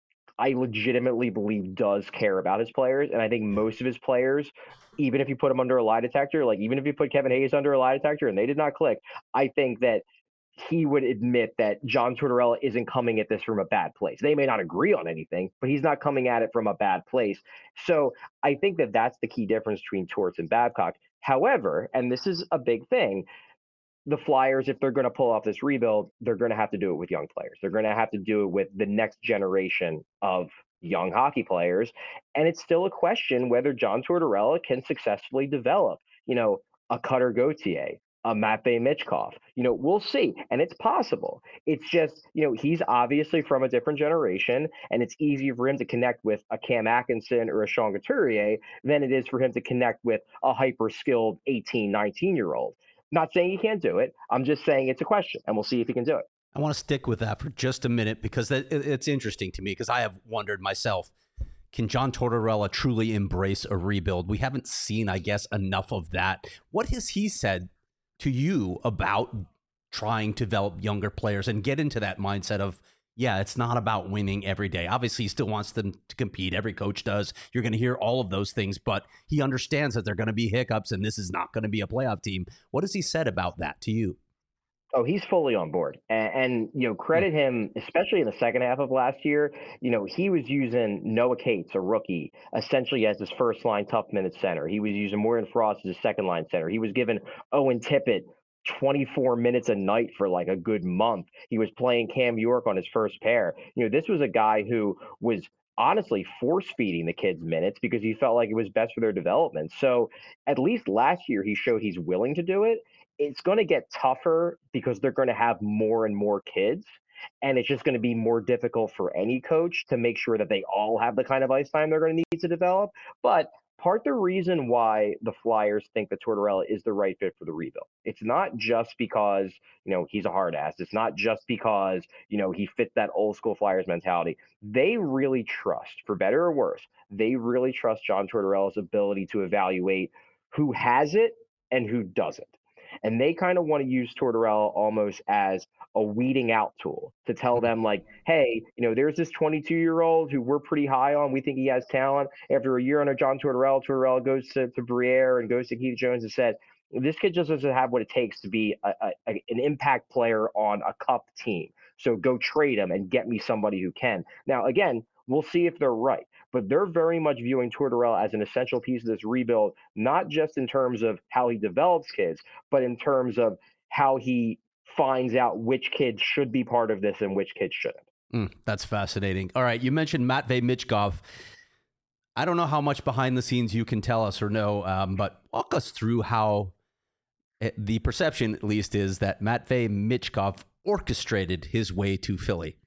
I legitimately believe does care about his players. And I think most of his players, even if you put them under a lie detector, like even if you put Kevin Hayes under a lie detector and they did not click, I think that he would admit that John Tortorella isn't coming at this from a bad place. They may not agree on anything, but he's not coming at it from a bad place. So I think that that's the key difference between Torts and Babcock. However, and this is a big thing, the Flyers, if they're going to pull off this rebuild, they're going to have to do it with young players. They're going to have to do it with the next generation of young hockey players. And it's still a question whether John Tortorella can successfully develop, you know, a Cutter Gauthier, a Matvei Michkov. You know, we'll see. And it's possible. It's just, you know, he's obviously from a different generation, and it's easier for him to connect with a Cam Atkinson or a Sean Couturier than it is for him to connect with a hyper skilled eighteen, nineteen year old. Not saying he can't do it. I'm just saying it's a question, and we'll see if he can do it. I want to stick with that for just a minute because that, it's interesting to me because I have wondered myself, can John Tortorella truly embrace a rebuild? We haven't seen, I guess, enough of that. What has he said to you about trying to develop younger players and get into that mindset of, yeah, it's not about winning every day. Obviously, he still wants them to compete. Every coach does. You're going to hear all of those things, but he understands that there are going to be hiccups and this is not going to be a playoff team. What has he said about that to you? Oh, he's fully on board. And, and, you know, credit him, especially in the second half of last year. You know, he was using Noah Cates, a rookie, essentially as his first line tough minute center. He was using Morgan Frost as his second line center. He was giving Owen Tippett twenty-four minutes a night for like a good month. He was playing Cam York on his first pair. You know, this was a guy who was honestly force feeding the kids minutes because he felt like it was best for their development. So at least last year, he showed he's willing to do it. It's going to get tougher because they're going to have more and more kids. And it's just going to be more difficult for any coach to make sure that they all have the kind of ice time they're going to need to develop. But part the reason why the Flyers think that Tortorella is the right fit for the rebuild. It's not just because, you know, he's a hard ass. It's not just because, you know, he fits that old school Flyers mentality. They really trust, for better or worse, they really trust John Tortorella's ability to evaluate who has it and who doesn't. And they kind of want to use Tortorella almost as a weeding out tool to tell them like, hey, you know, there's this twenty-two year old who we're pretty high on. We think he has talent. After a year under John Tortorella, Tortorella goes to, to Briere and goes to Keith Jones and said, this kid just doesn't have what it takes to be a, a, an impact player on a cup team. So go trade him and get me somebody who can. Now, again, we'll see if they're right. But they're very much viewing Tortorella as an essential piece of this rebuild, not just in terms of how he develops kids, but in terms of how he finds out which kids should be part of this and which kids shouldn't. Mm, that's fascinating. All right, you mentioned Matvei Michkov. I don't know how much behind the scenes you can tell us or know, um, but walk us through how it, the perception, at least, is that Matvei Michkov orchestrated his way to Philly.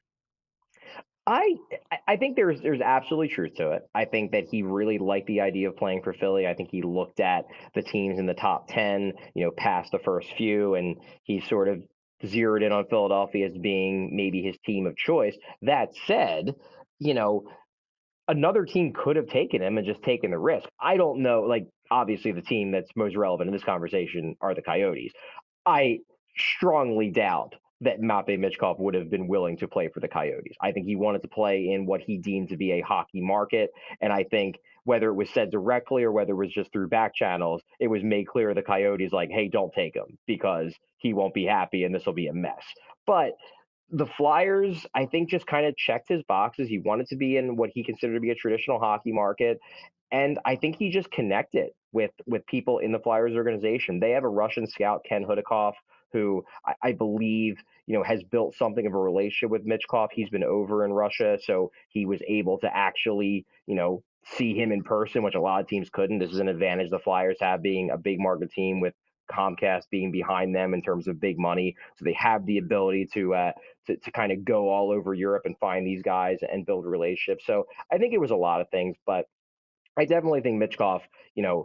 I I think there's there's absolutely truth to it. I think that he really liked the idea of playing for Philly. I think he looked at the teams in the top ten, you know, past the first few, and he sort of zeroed in on Philadelphia as being maybe his team of choice. That said, you know, another team could have taken him and just taken the risk. I don't know. Like, obviously, the team that's most relevant in this conversation are the Coyotes. I strongly doubt that Matvei Michkov would have been willing to play for the Coyotes. I think he wanted to play in what he deemed to be a hockey market. And I think whether it was said directly or whether it was just through back channels, it was made clear to the Coyotes, like, hey, don't take him because he won't be happy and this will be a mess. But the Flyers, I think, just kind of checked his boxes. He wanted to be in what he considered to be a traditional hockey market. And I think he just connected with with people in the Flyers organization. They have a Russian scout, Ken Hudakov, who I, I believe, you know, has built something of a relationship with Michkov. He's been over in Russia, so he was able to actually, you know, see him in person, which a lot of teams couldn't. This is an advantage the Flyers have, being a big market team with Comcast being behind them in terms of big money. So they have the ability to uh, to, to kind of go all over Europe and find these guys and build relationships. So I think it was a lot of things, but I definitely think Michkov, you know,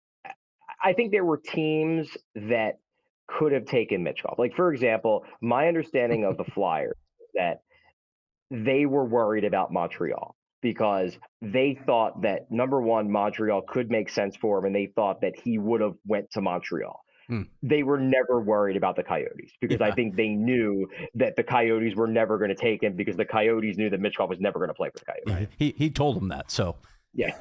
I think there were teams that could have taken Michkov. Like, for example, my understanding of the Flyers is that they were worried about Montreal because they thought that, number one, Montreal could make sense for him, and they thought that he would have went to Montreal. Hmm. They were never worried about the Coyotes because Yeah. I think they knew that the Coyotes were never going to take him because the Coyotes knew that Michkov was never going to play for the Coyotes. Right. He he told them that. So Yeah.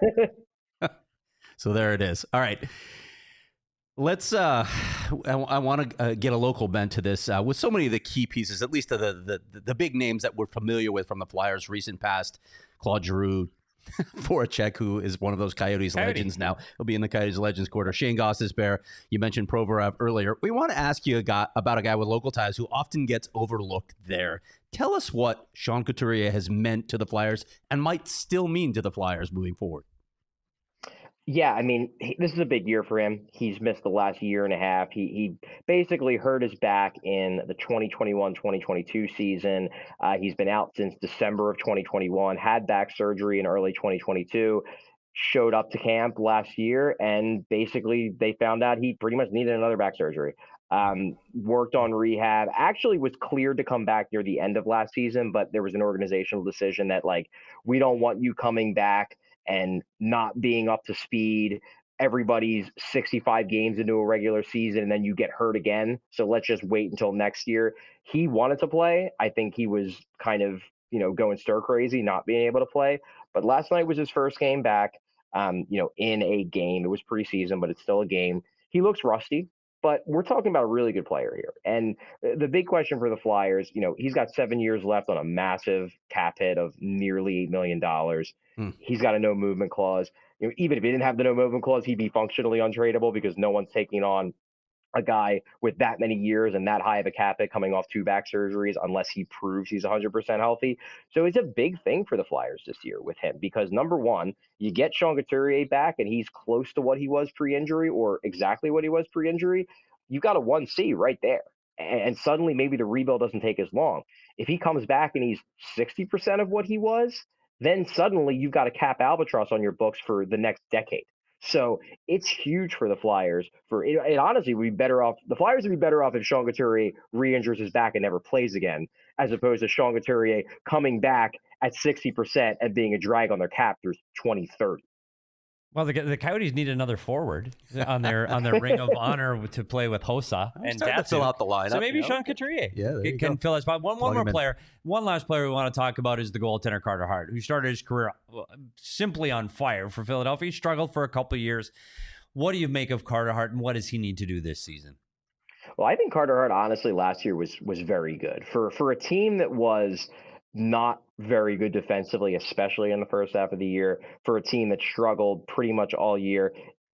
so there it is. All right. Let's. Uh, I, I want to uh, get a local bent to this uh, with so many of the key pieces, at least of the, the the big names that we're familiar with from the Flyers' recent past. Claude Giroux, Voracek, who is one of those Coyotes Coyote. legends now. He'll be in the Coyotes Legends quarter. Shane Gostisbehere, you mentioned Provorov earlier. We want to ask you a guy, about a guy with local ties who often gets overlooked there. Tell us what Sean Couturier has meant to the Flyers and might still mean to the Flyers moving forward. Yeah, I mean, he, this is a big year for him. He's missed the last year and a half. He he basically hurt his back in the twenty twenty-one twenty twenty-two season. Uh, he's been out since December of twenty twenty-one, had back surgery in early twenty twenty-two, showed up to camp last year, and basically they found out he pretty much needed another back surgery. Um, worked on rehab, actually was cleared to come back near the end of last season, but there was an organizational decision that, like, we don't want you coming back and not being up to speed. Everybody's sixty-five games into a regular season and then you get hurt again. So let's just wait until next year. He wanted to play. I think he was kind of, you know, going stir crazy, not being able to play. But last night was his first game back, um, you know, in a game. It was preseason, but it's still a game. He looks rusty, but we're talking about a really good player here. And the big question for the Flyers, you know, he's got seven years left on a massive cap hit of nearly eight million dollars. Hmm. He's got a no movement clause. You know, even if he didn't have the no movement clause, he'd be functionally untradeable because no one's taking on a guy with that many years and that high of a cap hit coming off two back surgeries unless he proves he's one hundred percent healthy. So it's a big thing for the Flyers this year with him because, number one, you get Sean Couturier back and he's close to what he was pre-injury or exactly what he was pre-injury. You've got a one C right there. And suddenly maybe the rebuild doesn't take as long. If he comes back and he's sixty percent of what he was, then suddenly you've got a cap albatross on your books for the next decade. So it's huge for the Flyers. For it, it honestly would be better off. The Flyers would be better off if Sean Couturier re-injures his back and never plays again, as opposed to Sean Couturier coming back at sixty percent and being a drag on their cap through twenty thirty. Well, the, the Coyotes need another forward on their on their ring of honor to play with Hossa I'm and starting to Datsyuk. fill out the lineup. So maybe you know? Sean Couturier Yeah, there can, you can go. fill that spot. One, Plug one more him in. player. One last player we want to talk about is the goaltender Carter Hart, who started his career simply on fire for Philadelphia. He struggled for a couple of years. What do you make of Carter Hart, and what does he need to do this season? Well, I think Carter Hart honestly last year was was very good for for a team that was not very good defensively, especially in the first half of the year. For a team that struggled pretty much all year,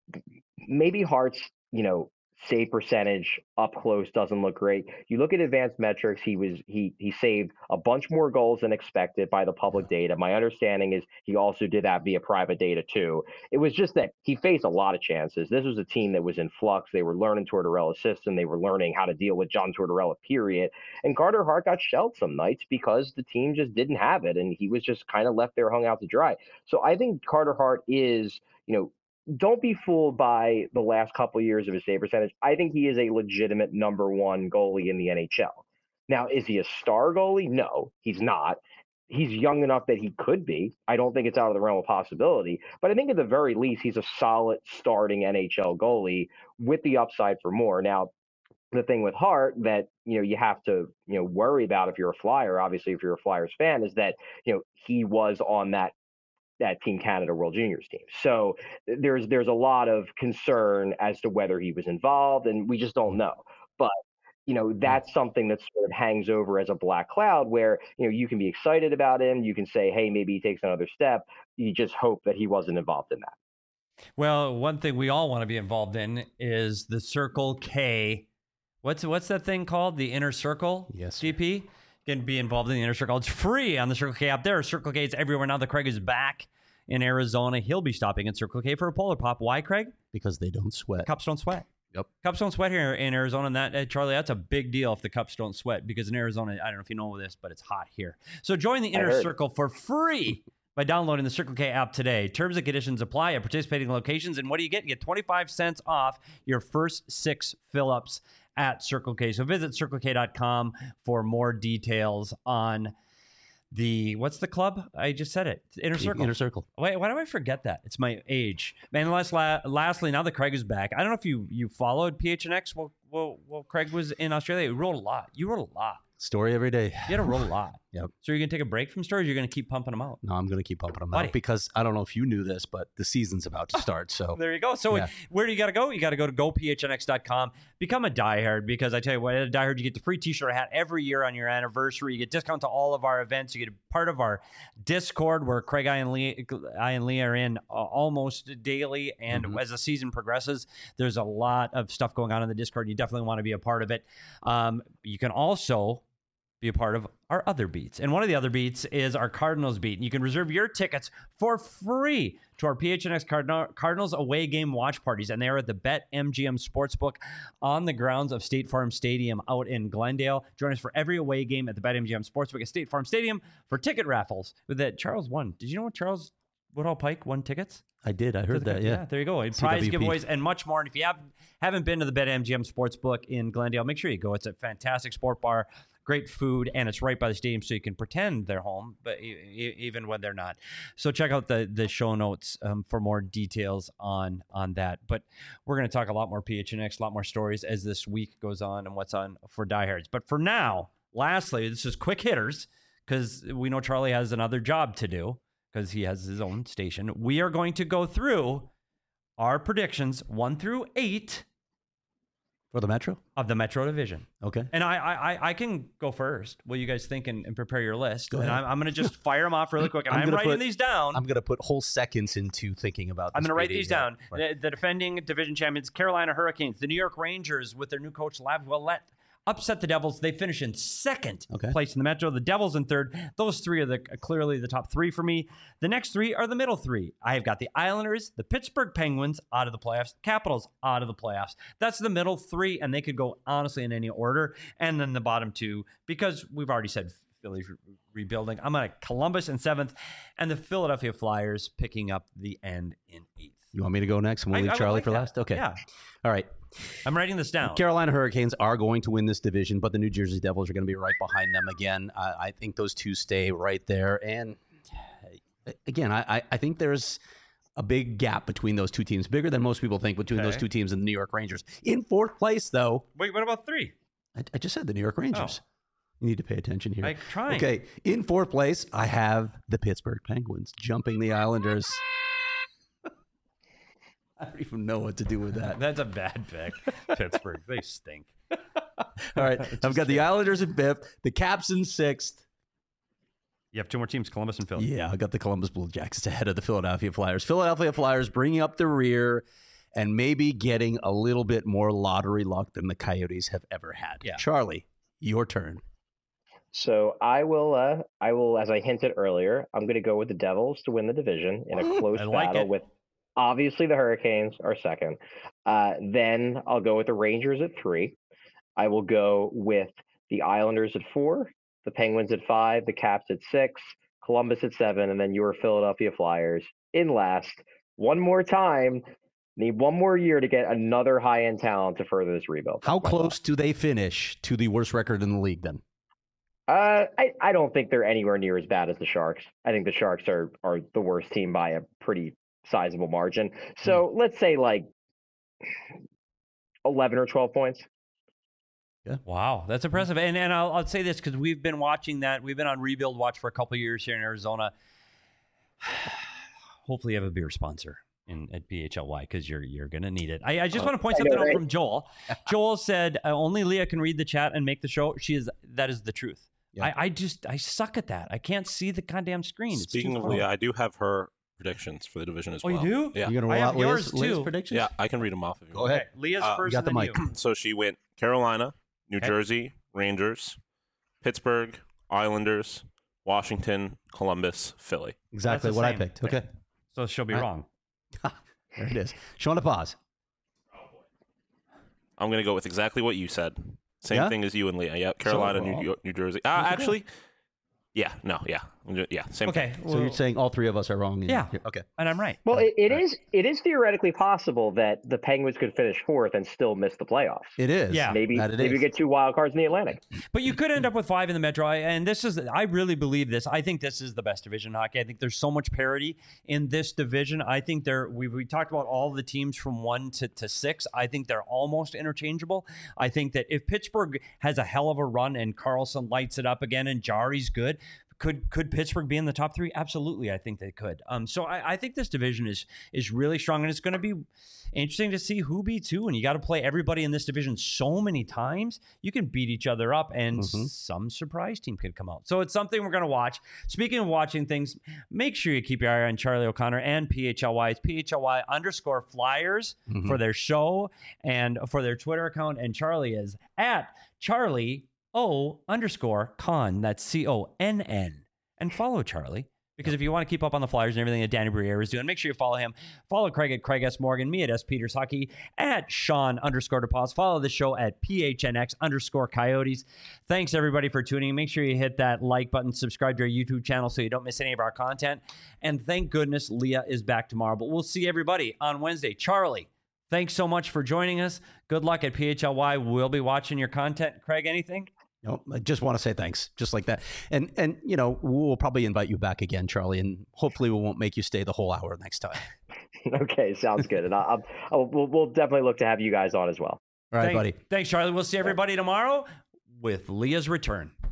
maybe Hart's, you know, save percentage up close doesn't look great. You look at advanced metrics, he was he he saved a bunch more goals than expected by the public data. My understanding is he also did that via private data too. It was just that he faced a lot of chances. This was a team that was in flux. They were learning Tortorella's system. They were learning how to deal with John Tortorella, period. And Carter Hart got shelled some nights because the team just didn't have it, and he was just kind of left there hung out to dry. So I think Carter Hart is, you know, don't be fooled by the last couple of years of his save percentage. I think he is a legitimate number one goalie in the N H L. Now, is he a star goalie? No, he's not. He's young enough that he could be. I don't think it's out of the realm of possibility. But I think at the very least, he's a solid starting N H L goalie with the upside for more. Now, the thing with Hart that, you know, you have to, you know, worry about if you're a Flyer, obviously if you're a Flyers fan, is that, you know, he was on that that Team Canada World Juniors team. So there's there's a lot of concern as to whether he was involved, and we just don't know. But you know, that's something that sort of hangs over as a black cloud where, you know, you can be excited about him. You can say, hey, maybe he takes another step. You just hope that he wasn't involved in that. Well, one thing we all want to be involved in is the Circle K. What's what's that thing called? The Inner Circle? Yes. G P? You can be involved in the Inner Circle. It's free on the Circle K app. There are Circle K's everywhere now that Craig is back in Arizona. He'll be stopping at Circle K for a Polar Pop. Why, Craig? Because they don't sweat. Cups don't sweat. Yep. Cups don't sweat here in Arizona. And that, uh, Charlie, that's a big deal if the cups don't sweat, because in Arizona, I don't know if you know this, but it's hot here. So join the Inner Circle for free by downloading the Circle K app today. Terms and conditions apply at participating locations. And what do you get? You get twenty-five cents off your first six fill-ups at Circle K. So visit circle k dot com for more details on the, what's the club? I just said it. Inner Circle. Inner Circle. Wait, why do I forget that? It's my age. And last, la- lastly, now that Craig is back, I don't know if you you followed P H N X while, while, while Craig was in Australia. You wrote a lot. You wrote a lot. Story every day. You had to roll a lot. Yep. So you're going to take a break from stories, or you're going to keep pumping them out? No, I'm going to keep pumping them Buddy. out because I don't know if you knew this, but the season's about to start. So There you go. So Yeah. where do you got to go? You got to go to go p h n x dot com. Become a diehard, because I tell you what, at a diehard, you get the free t-shirt or hat every year on your anniversary. You get discount to all of our events. You get a part of our Discord where Craig, I, and Lee, I and Lee are in uh, almost daily. And Mhm. as the season progresses, there's a lot of stuff going on in the Discord. You definitely want to be a part of it. Um, you can also be a part of our other beats. And one of the other beats is our Cardinals beat. And you can reserve your tickets for free to our P H N X Cardinal- Cardinals away game watch parties. And they are at the BetMGM Sportsbook on the grounds of State Farm Stadium out in Glendale. Join us for every away game at the BetMGM Sportsbook at State Farm Stadium for ticket raffles. With that, Charles won. Did you know what Charles Woodhull Pike won tickets? I did. I heard that. Yeah. There you go. Prize C W P. giveaways and much more. And if you have, haven't been to the BetMGM Sportsbook in Glendale, make sure you go. It's a fantastic sport bar. Great food, and it's right by the stadium, so you can pretend they're home, but e- e- even when they're not. So check out the the show notes um, for more details on on that. But we're going to talk a lot more P H N X, a lot more stories as this week goes on and what's on for diehards. But for now, lastly, this is quick hitters, because we know Charlie has another job to do because he has his own station. We are going to go through our predictions one through eight For the Metro? of the Metro Division. Okay. And I, I, I can go first. What you guys think, and, and prepare your list. Go and ahead. I'm, I'm going to just fire them off really quick. And I'm I'm, gonna writing put- these down. I'm going to put whole seconds into thinking about this. I'm going to write baby. these Yeah. down. Right. The, the defending division champions, Carolina Hurricanes, the New York Rangers with their new coach, Lav Willett, upset the Devils. They finish in second Okay. place in the Metro. The Devils in third. Those three are the clearly the top three for me. The next three are the middle three. I have got the Islanders, the Pittsburgh Penguins out of the playoffs, Capitals out of the playoffs. That's the middle three, and they could go honestly in any order. And then the bottom two, because we've already said Philly's re- rebuilding. I'm on Columbus in seventh, and the Philadelphia Flyers picking up the end in eighth. You want me to go next and we'll I- leave I would Charlie like for that. last? Okay. Yeah. All right. I'm writing this down. Carolina Hurricanes are going to win this division, but the New Jersey Devils are going to be right behind them again. I, I think those two stay right there. And uh, again, I, I- I think there's a big gap between those two teams, bigger than most people think, between those Okay. two teams and the New York Rangers. In fourth place, though, Wait, what about three? I, I just said the New York Rangers. Oh. You need to pay attention here. I'm trying. Okay, in fourth place, I have the Pittsburgh Penguins jumping the Islanders. I don't even know what to do with that. That's a bad pick. Pittsburgh, they stink. All right, I've got the Islanders in fifth, the Caps in sixth. You have two more teams, Columbus and Philly. Yeah, I got the Columbus Blue Jackets ahead of the Philadelphia Flyers. Philadelphia Flyers bringing up the rear and maybe getting a little bit more lottery luck than the Coyotes have ever had. Yeah. Charlie, your turn. So I will, uh, I will, as I hinted earlier, I'm going to go with the Devils to win the division in a close I like battle it. with obviously the Hurricanes are second. Uh, then I'll go with the Rangers at three. I will go with the Islanders at four, the Penguins at five, the Caps at six, Columbus at seven, and then your Philadelphia Flyers in last. One more time. Need one more year to get another high-end talent to further this rebuild. How That's my close do they finish to the worst record in the league then? Uh, I, I don't think they're anywhere near as bad as the Sharks. I think the Sharks are, are the worst team by a pretty sizable margin. So let's say like eleven or twelve points. Wow, that's impressive. And and I'll, I'll say this because we've been watching that. We've been on rebuild watch for a couple of years here in Arizona. Hopefully, you have a beer sponsor in at P H L Y because you're you're gonna need it. I, I just want to point something out from Joel. Joel said uh, only Leah can read the chat and make the show. She is that is the truth. Yeah. I, I just I suck at that. I can't see the goddamn screen. It's Speaking of Leah, I do have her predictions for the division as oh, well. Oh, you do? Yeah. You're gonna roll I have out yours Leah's, Leah's too. predictions? Yeah, I can read them off if you Go want. ahead. Okay, Leah's Uh, first. you got and the then mic. you. So she went Carolina, New Okay. Jersey, Rangers, Pittsburgh, Islanders, Washington, Columbus, Philly. Exactly That's the what I same. picked. Okay. So she'll be All right. wrong. There it is. Showing a pause. I'm going to go with exactly what you said. Same Yeah? thing as you and Leah. Yeah, Carolina, So, New, well, York, New Jersey. Uh, that's okay. actually, yeah, no, yeah, yeah, same Okay. thing. So well- you're saying all three of us are wrong? and Yeah. you're- Okay. and I'm right. Well, it, it Right. is it is theoretically possible that the Penguins could finish fourth and still miss the playoffs. It is. Yeah. Maybe That it maybe is. we get two wild cards in the Atlantic. But you could end up with five in the Metro. I- And this is, I really believe this. I think this is the best division in hockey. I think there's so much parity in this division. I think there, we we talked about all the teams from one to, to six. I think they're almost interchangeable. I think that if Pittsburgh has a hell of a run and Carlson lights it up again and Jari's good, Could could Pittsburgh be in the top three? Absolutely, I think they could. Um, so I, I think this division is is really strong, and it's going to be interesting to see who beats who. And you got to play everybody in this division so many times. You can beat each other up, and Mhm. some surprise team could come out. So it's something we're going to watch. Speaking of watching things, make sure you keep your eye on Charlie O'Connor and P H L Y. It's P H L Y underscore Flyers Mhm. for their show and for their Twitter account. And Charlie is at Charlie O underscore Con. That's C O N N. And follow Charlie, because if you want to keep up on the Flyers and everything that Danny Briere is doing, make sure you follow him. Follow Craig at Craig S. Morgan, me at S. Peters Hockey, at Sean underscore DePaz. Follow the show at P H N X underscore Coyotes. Thanks, everybody, for tuning in. Make sure you hit that like button, subscribe to our YouTube channel so you don't miss any of our content. And thank goodness Leah is back tomorrow. But we'll see everybody on Wednesday. Charlie, thanks so much for joining us. Good luck at P H L Y. We'll be watching your content. Craig, anything? No, I just want to say thanks, just like that. And, and you know, we'll probably invite you back again, Charlie, and hopefully we won't make you stay the whole hour next time. Okay, sounds good. And I'll, I'll, we'll, we'll definitely look to have you guys on as well. All right, Thank- buddy. Thanks, Charlie. We'll see everybody tomorrow with Leah's return.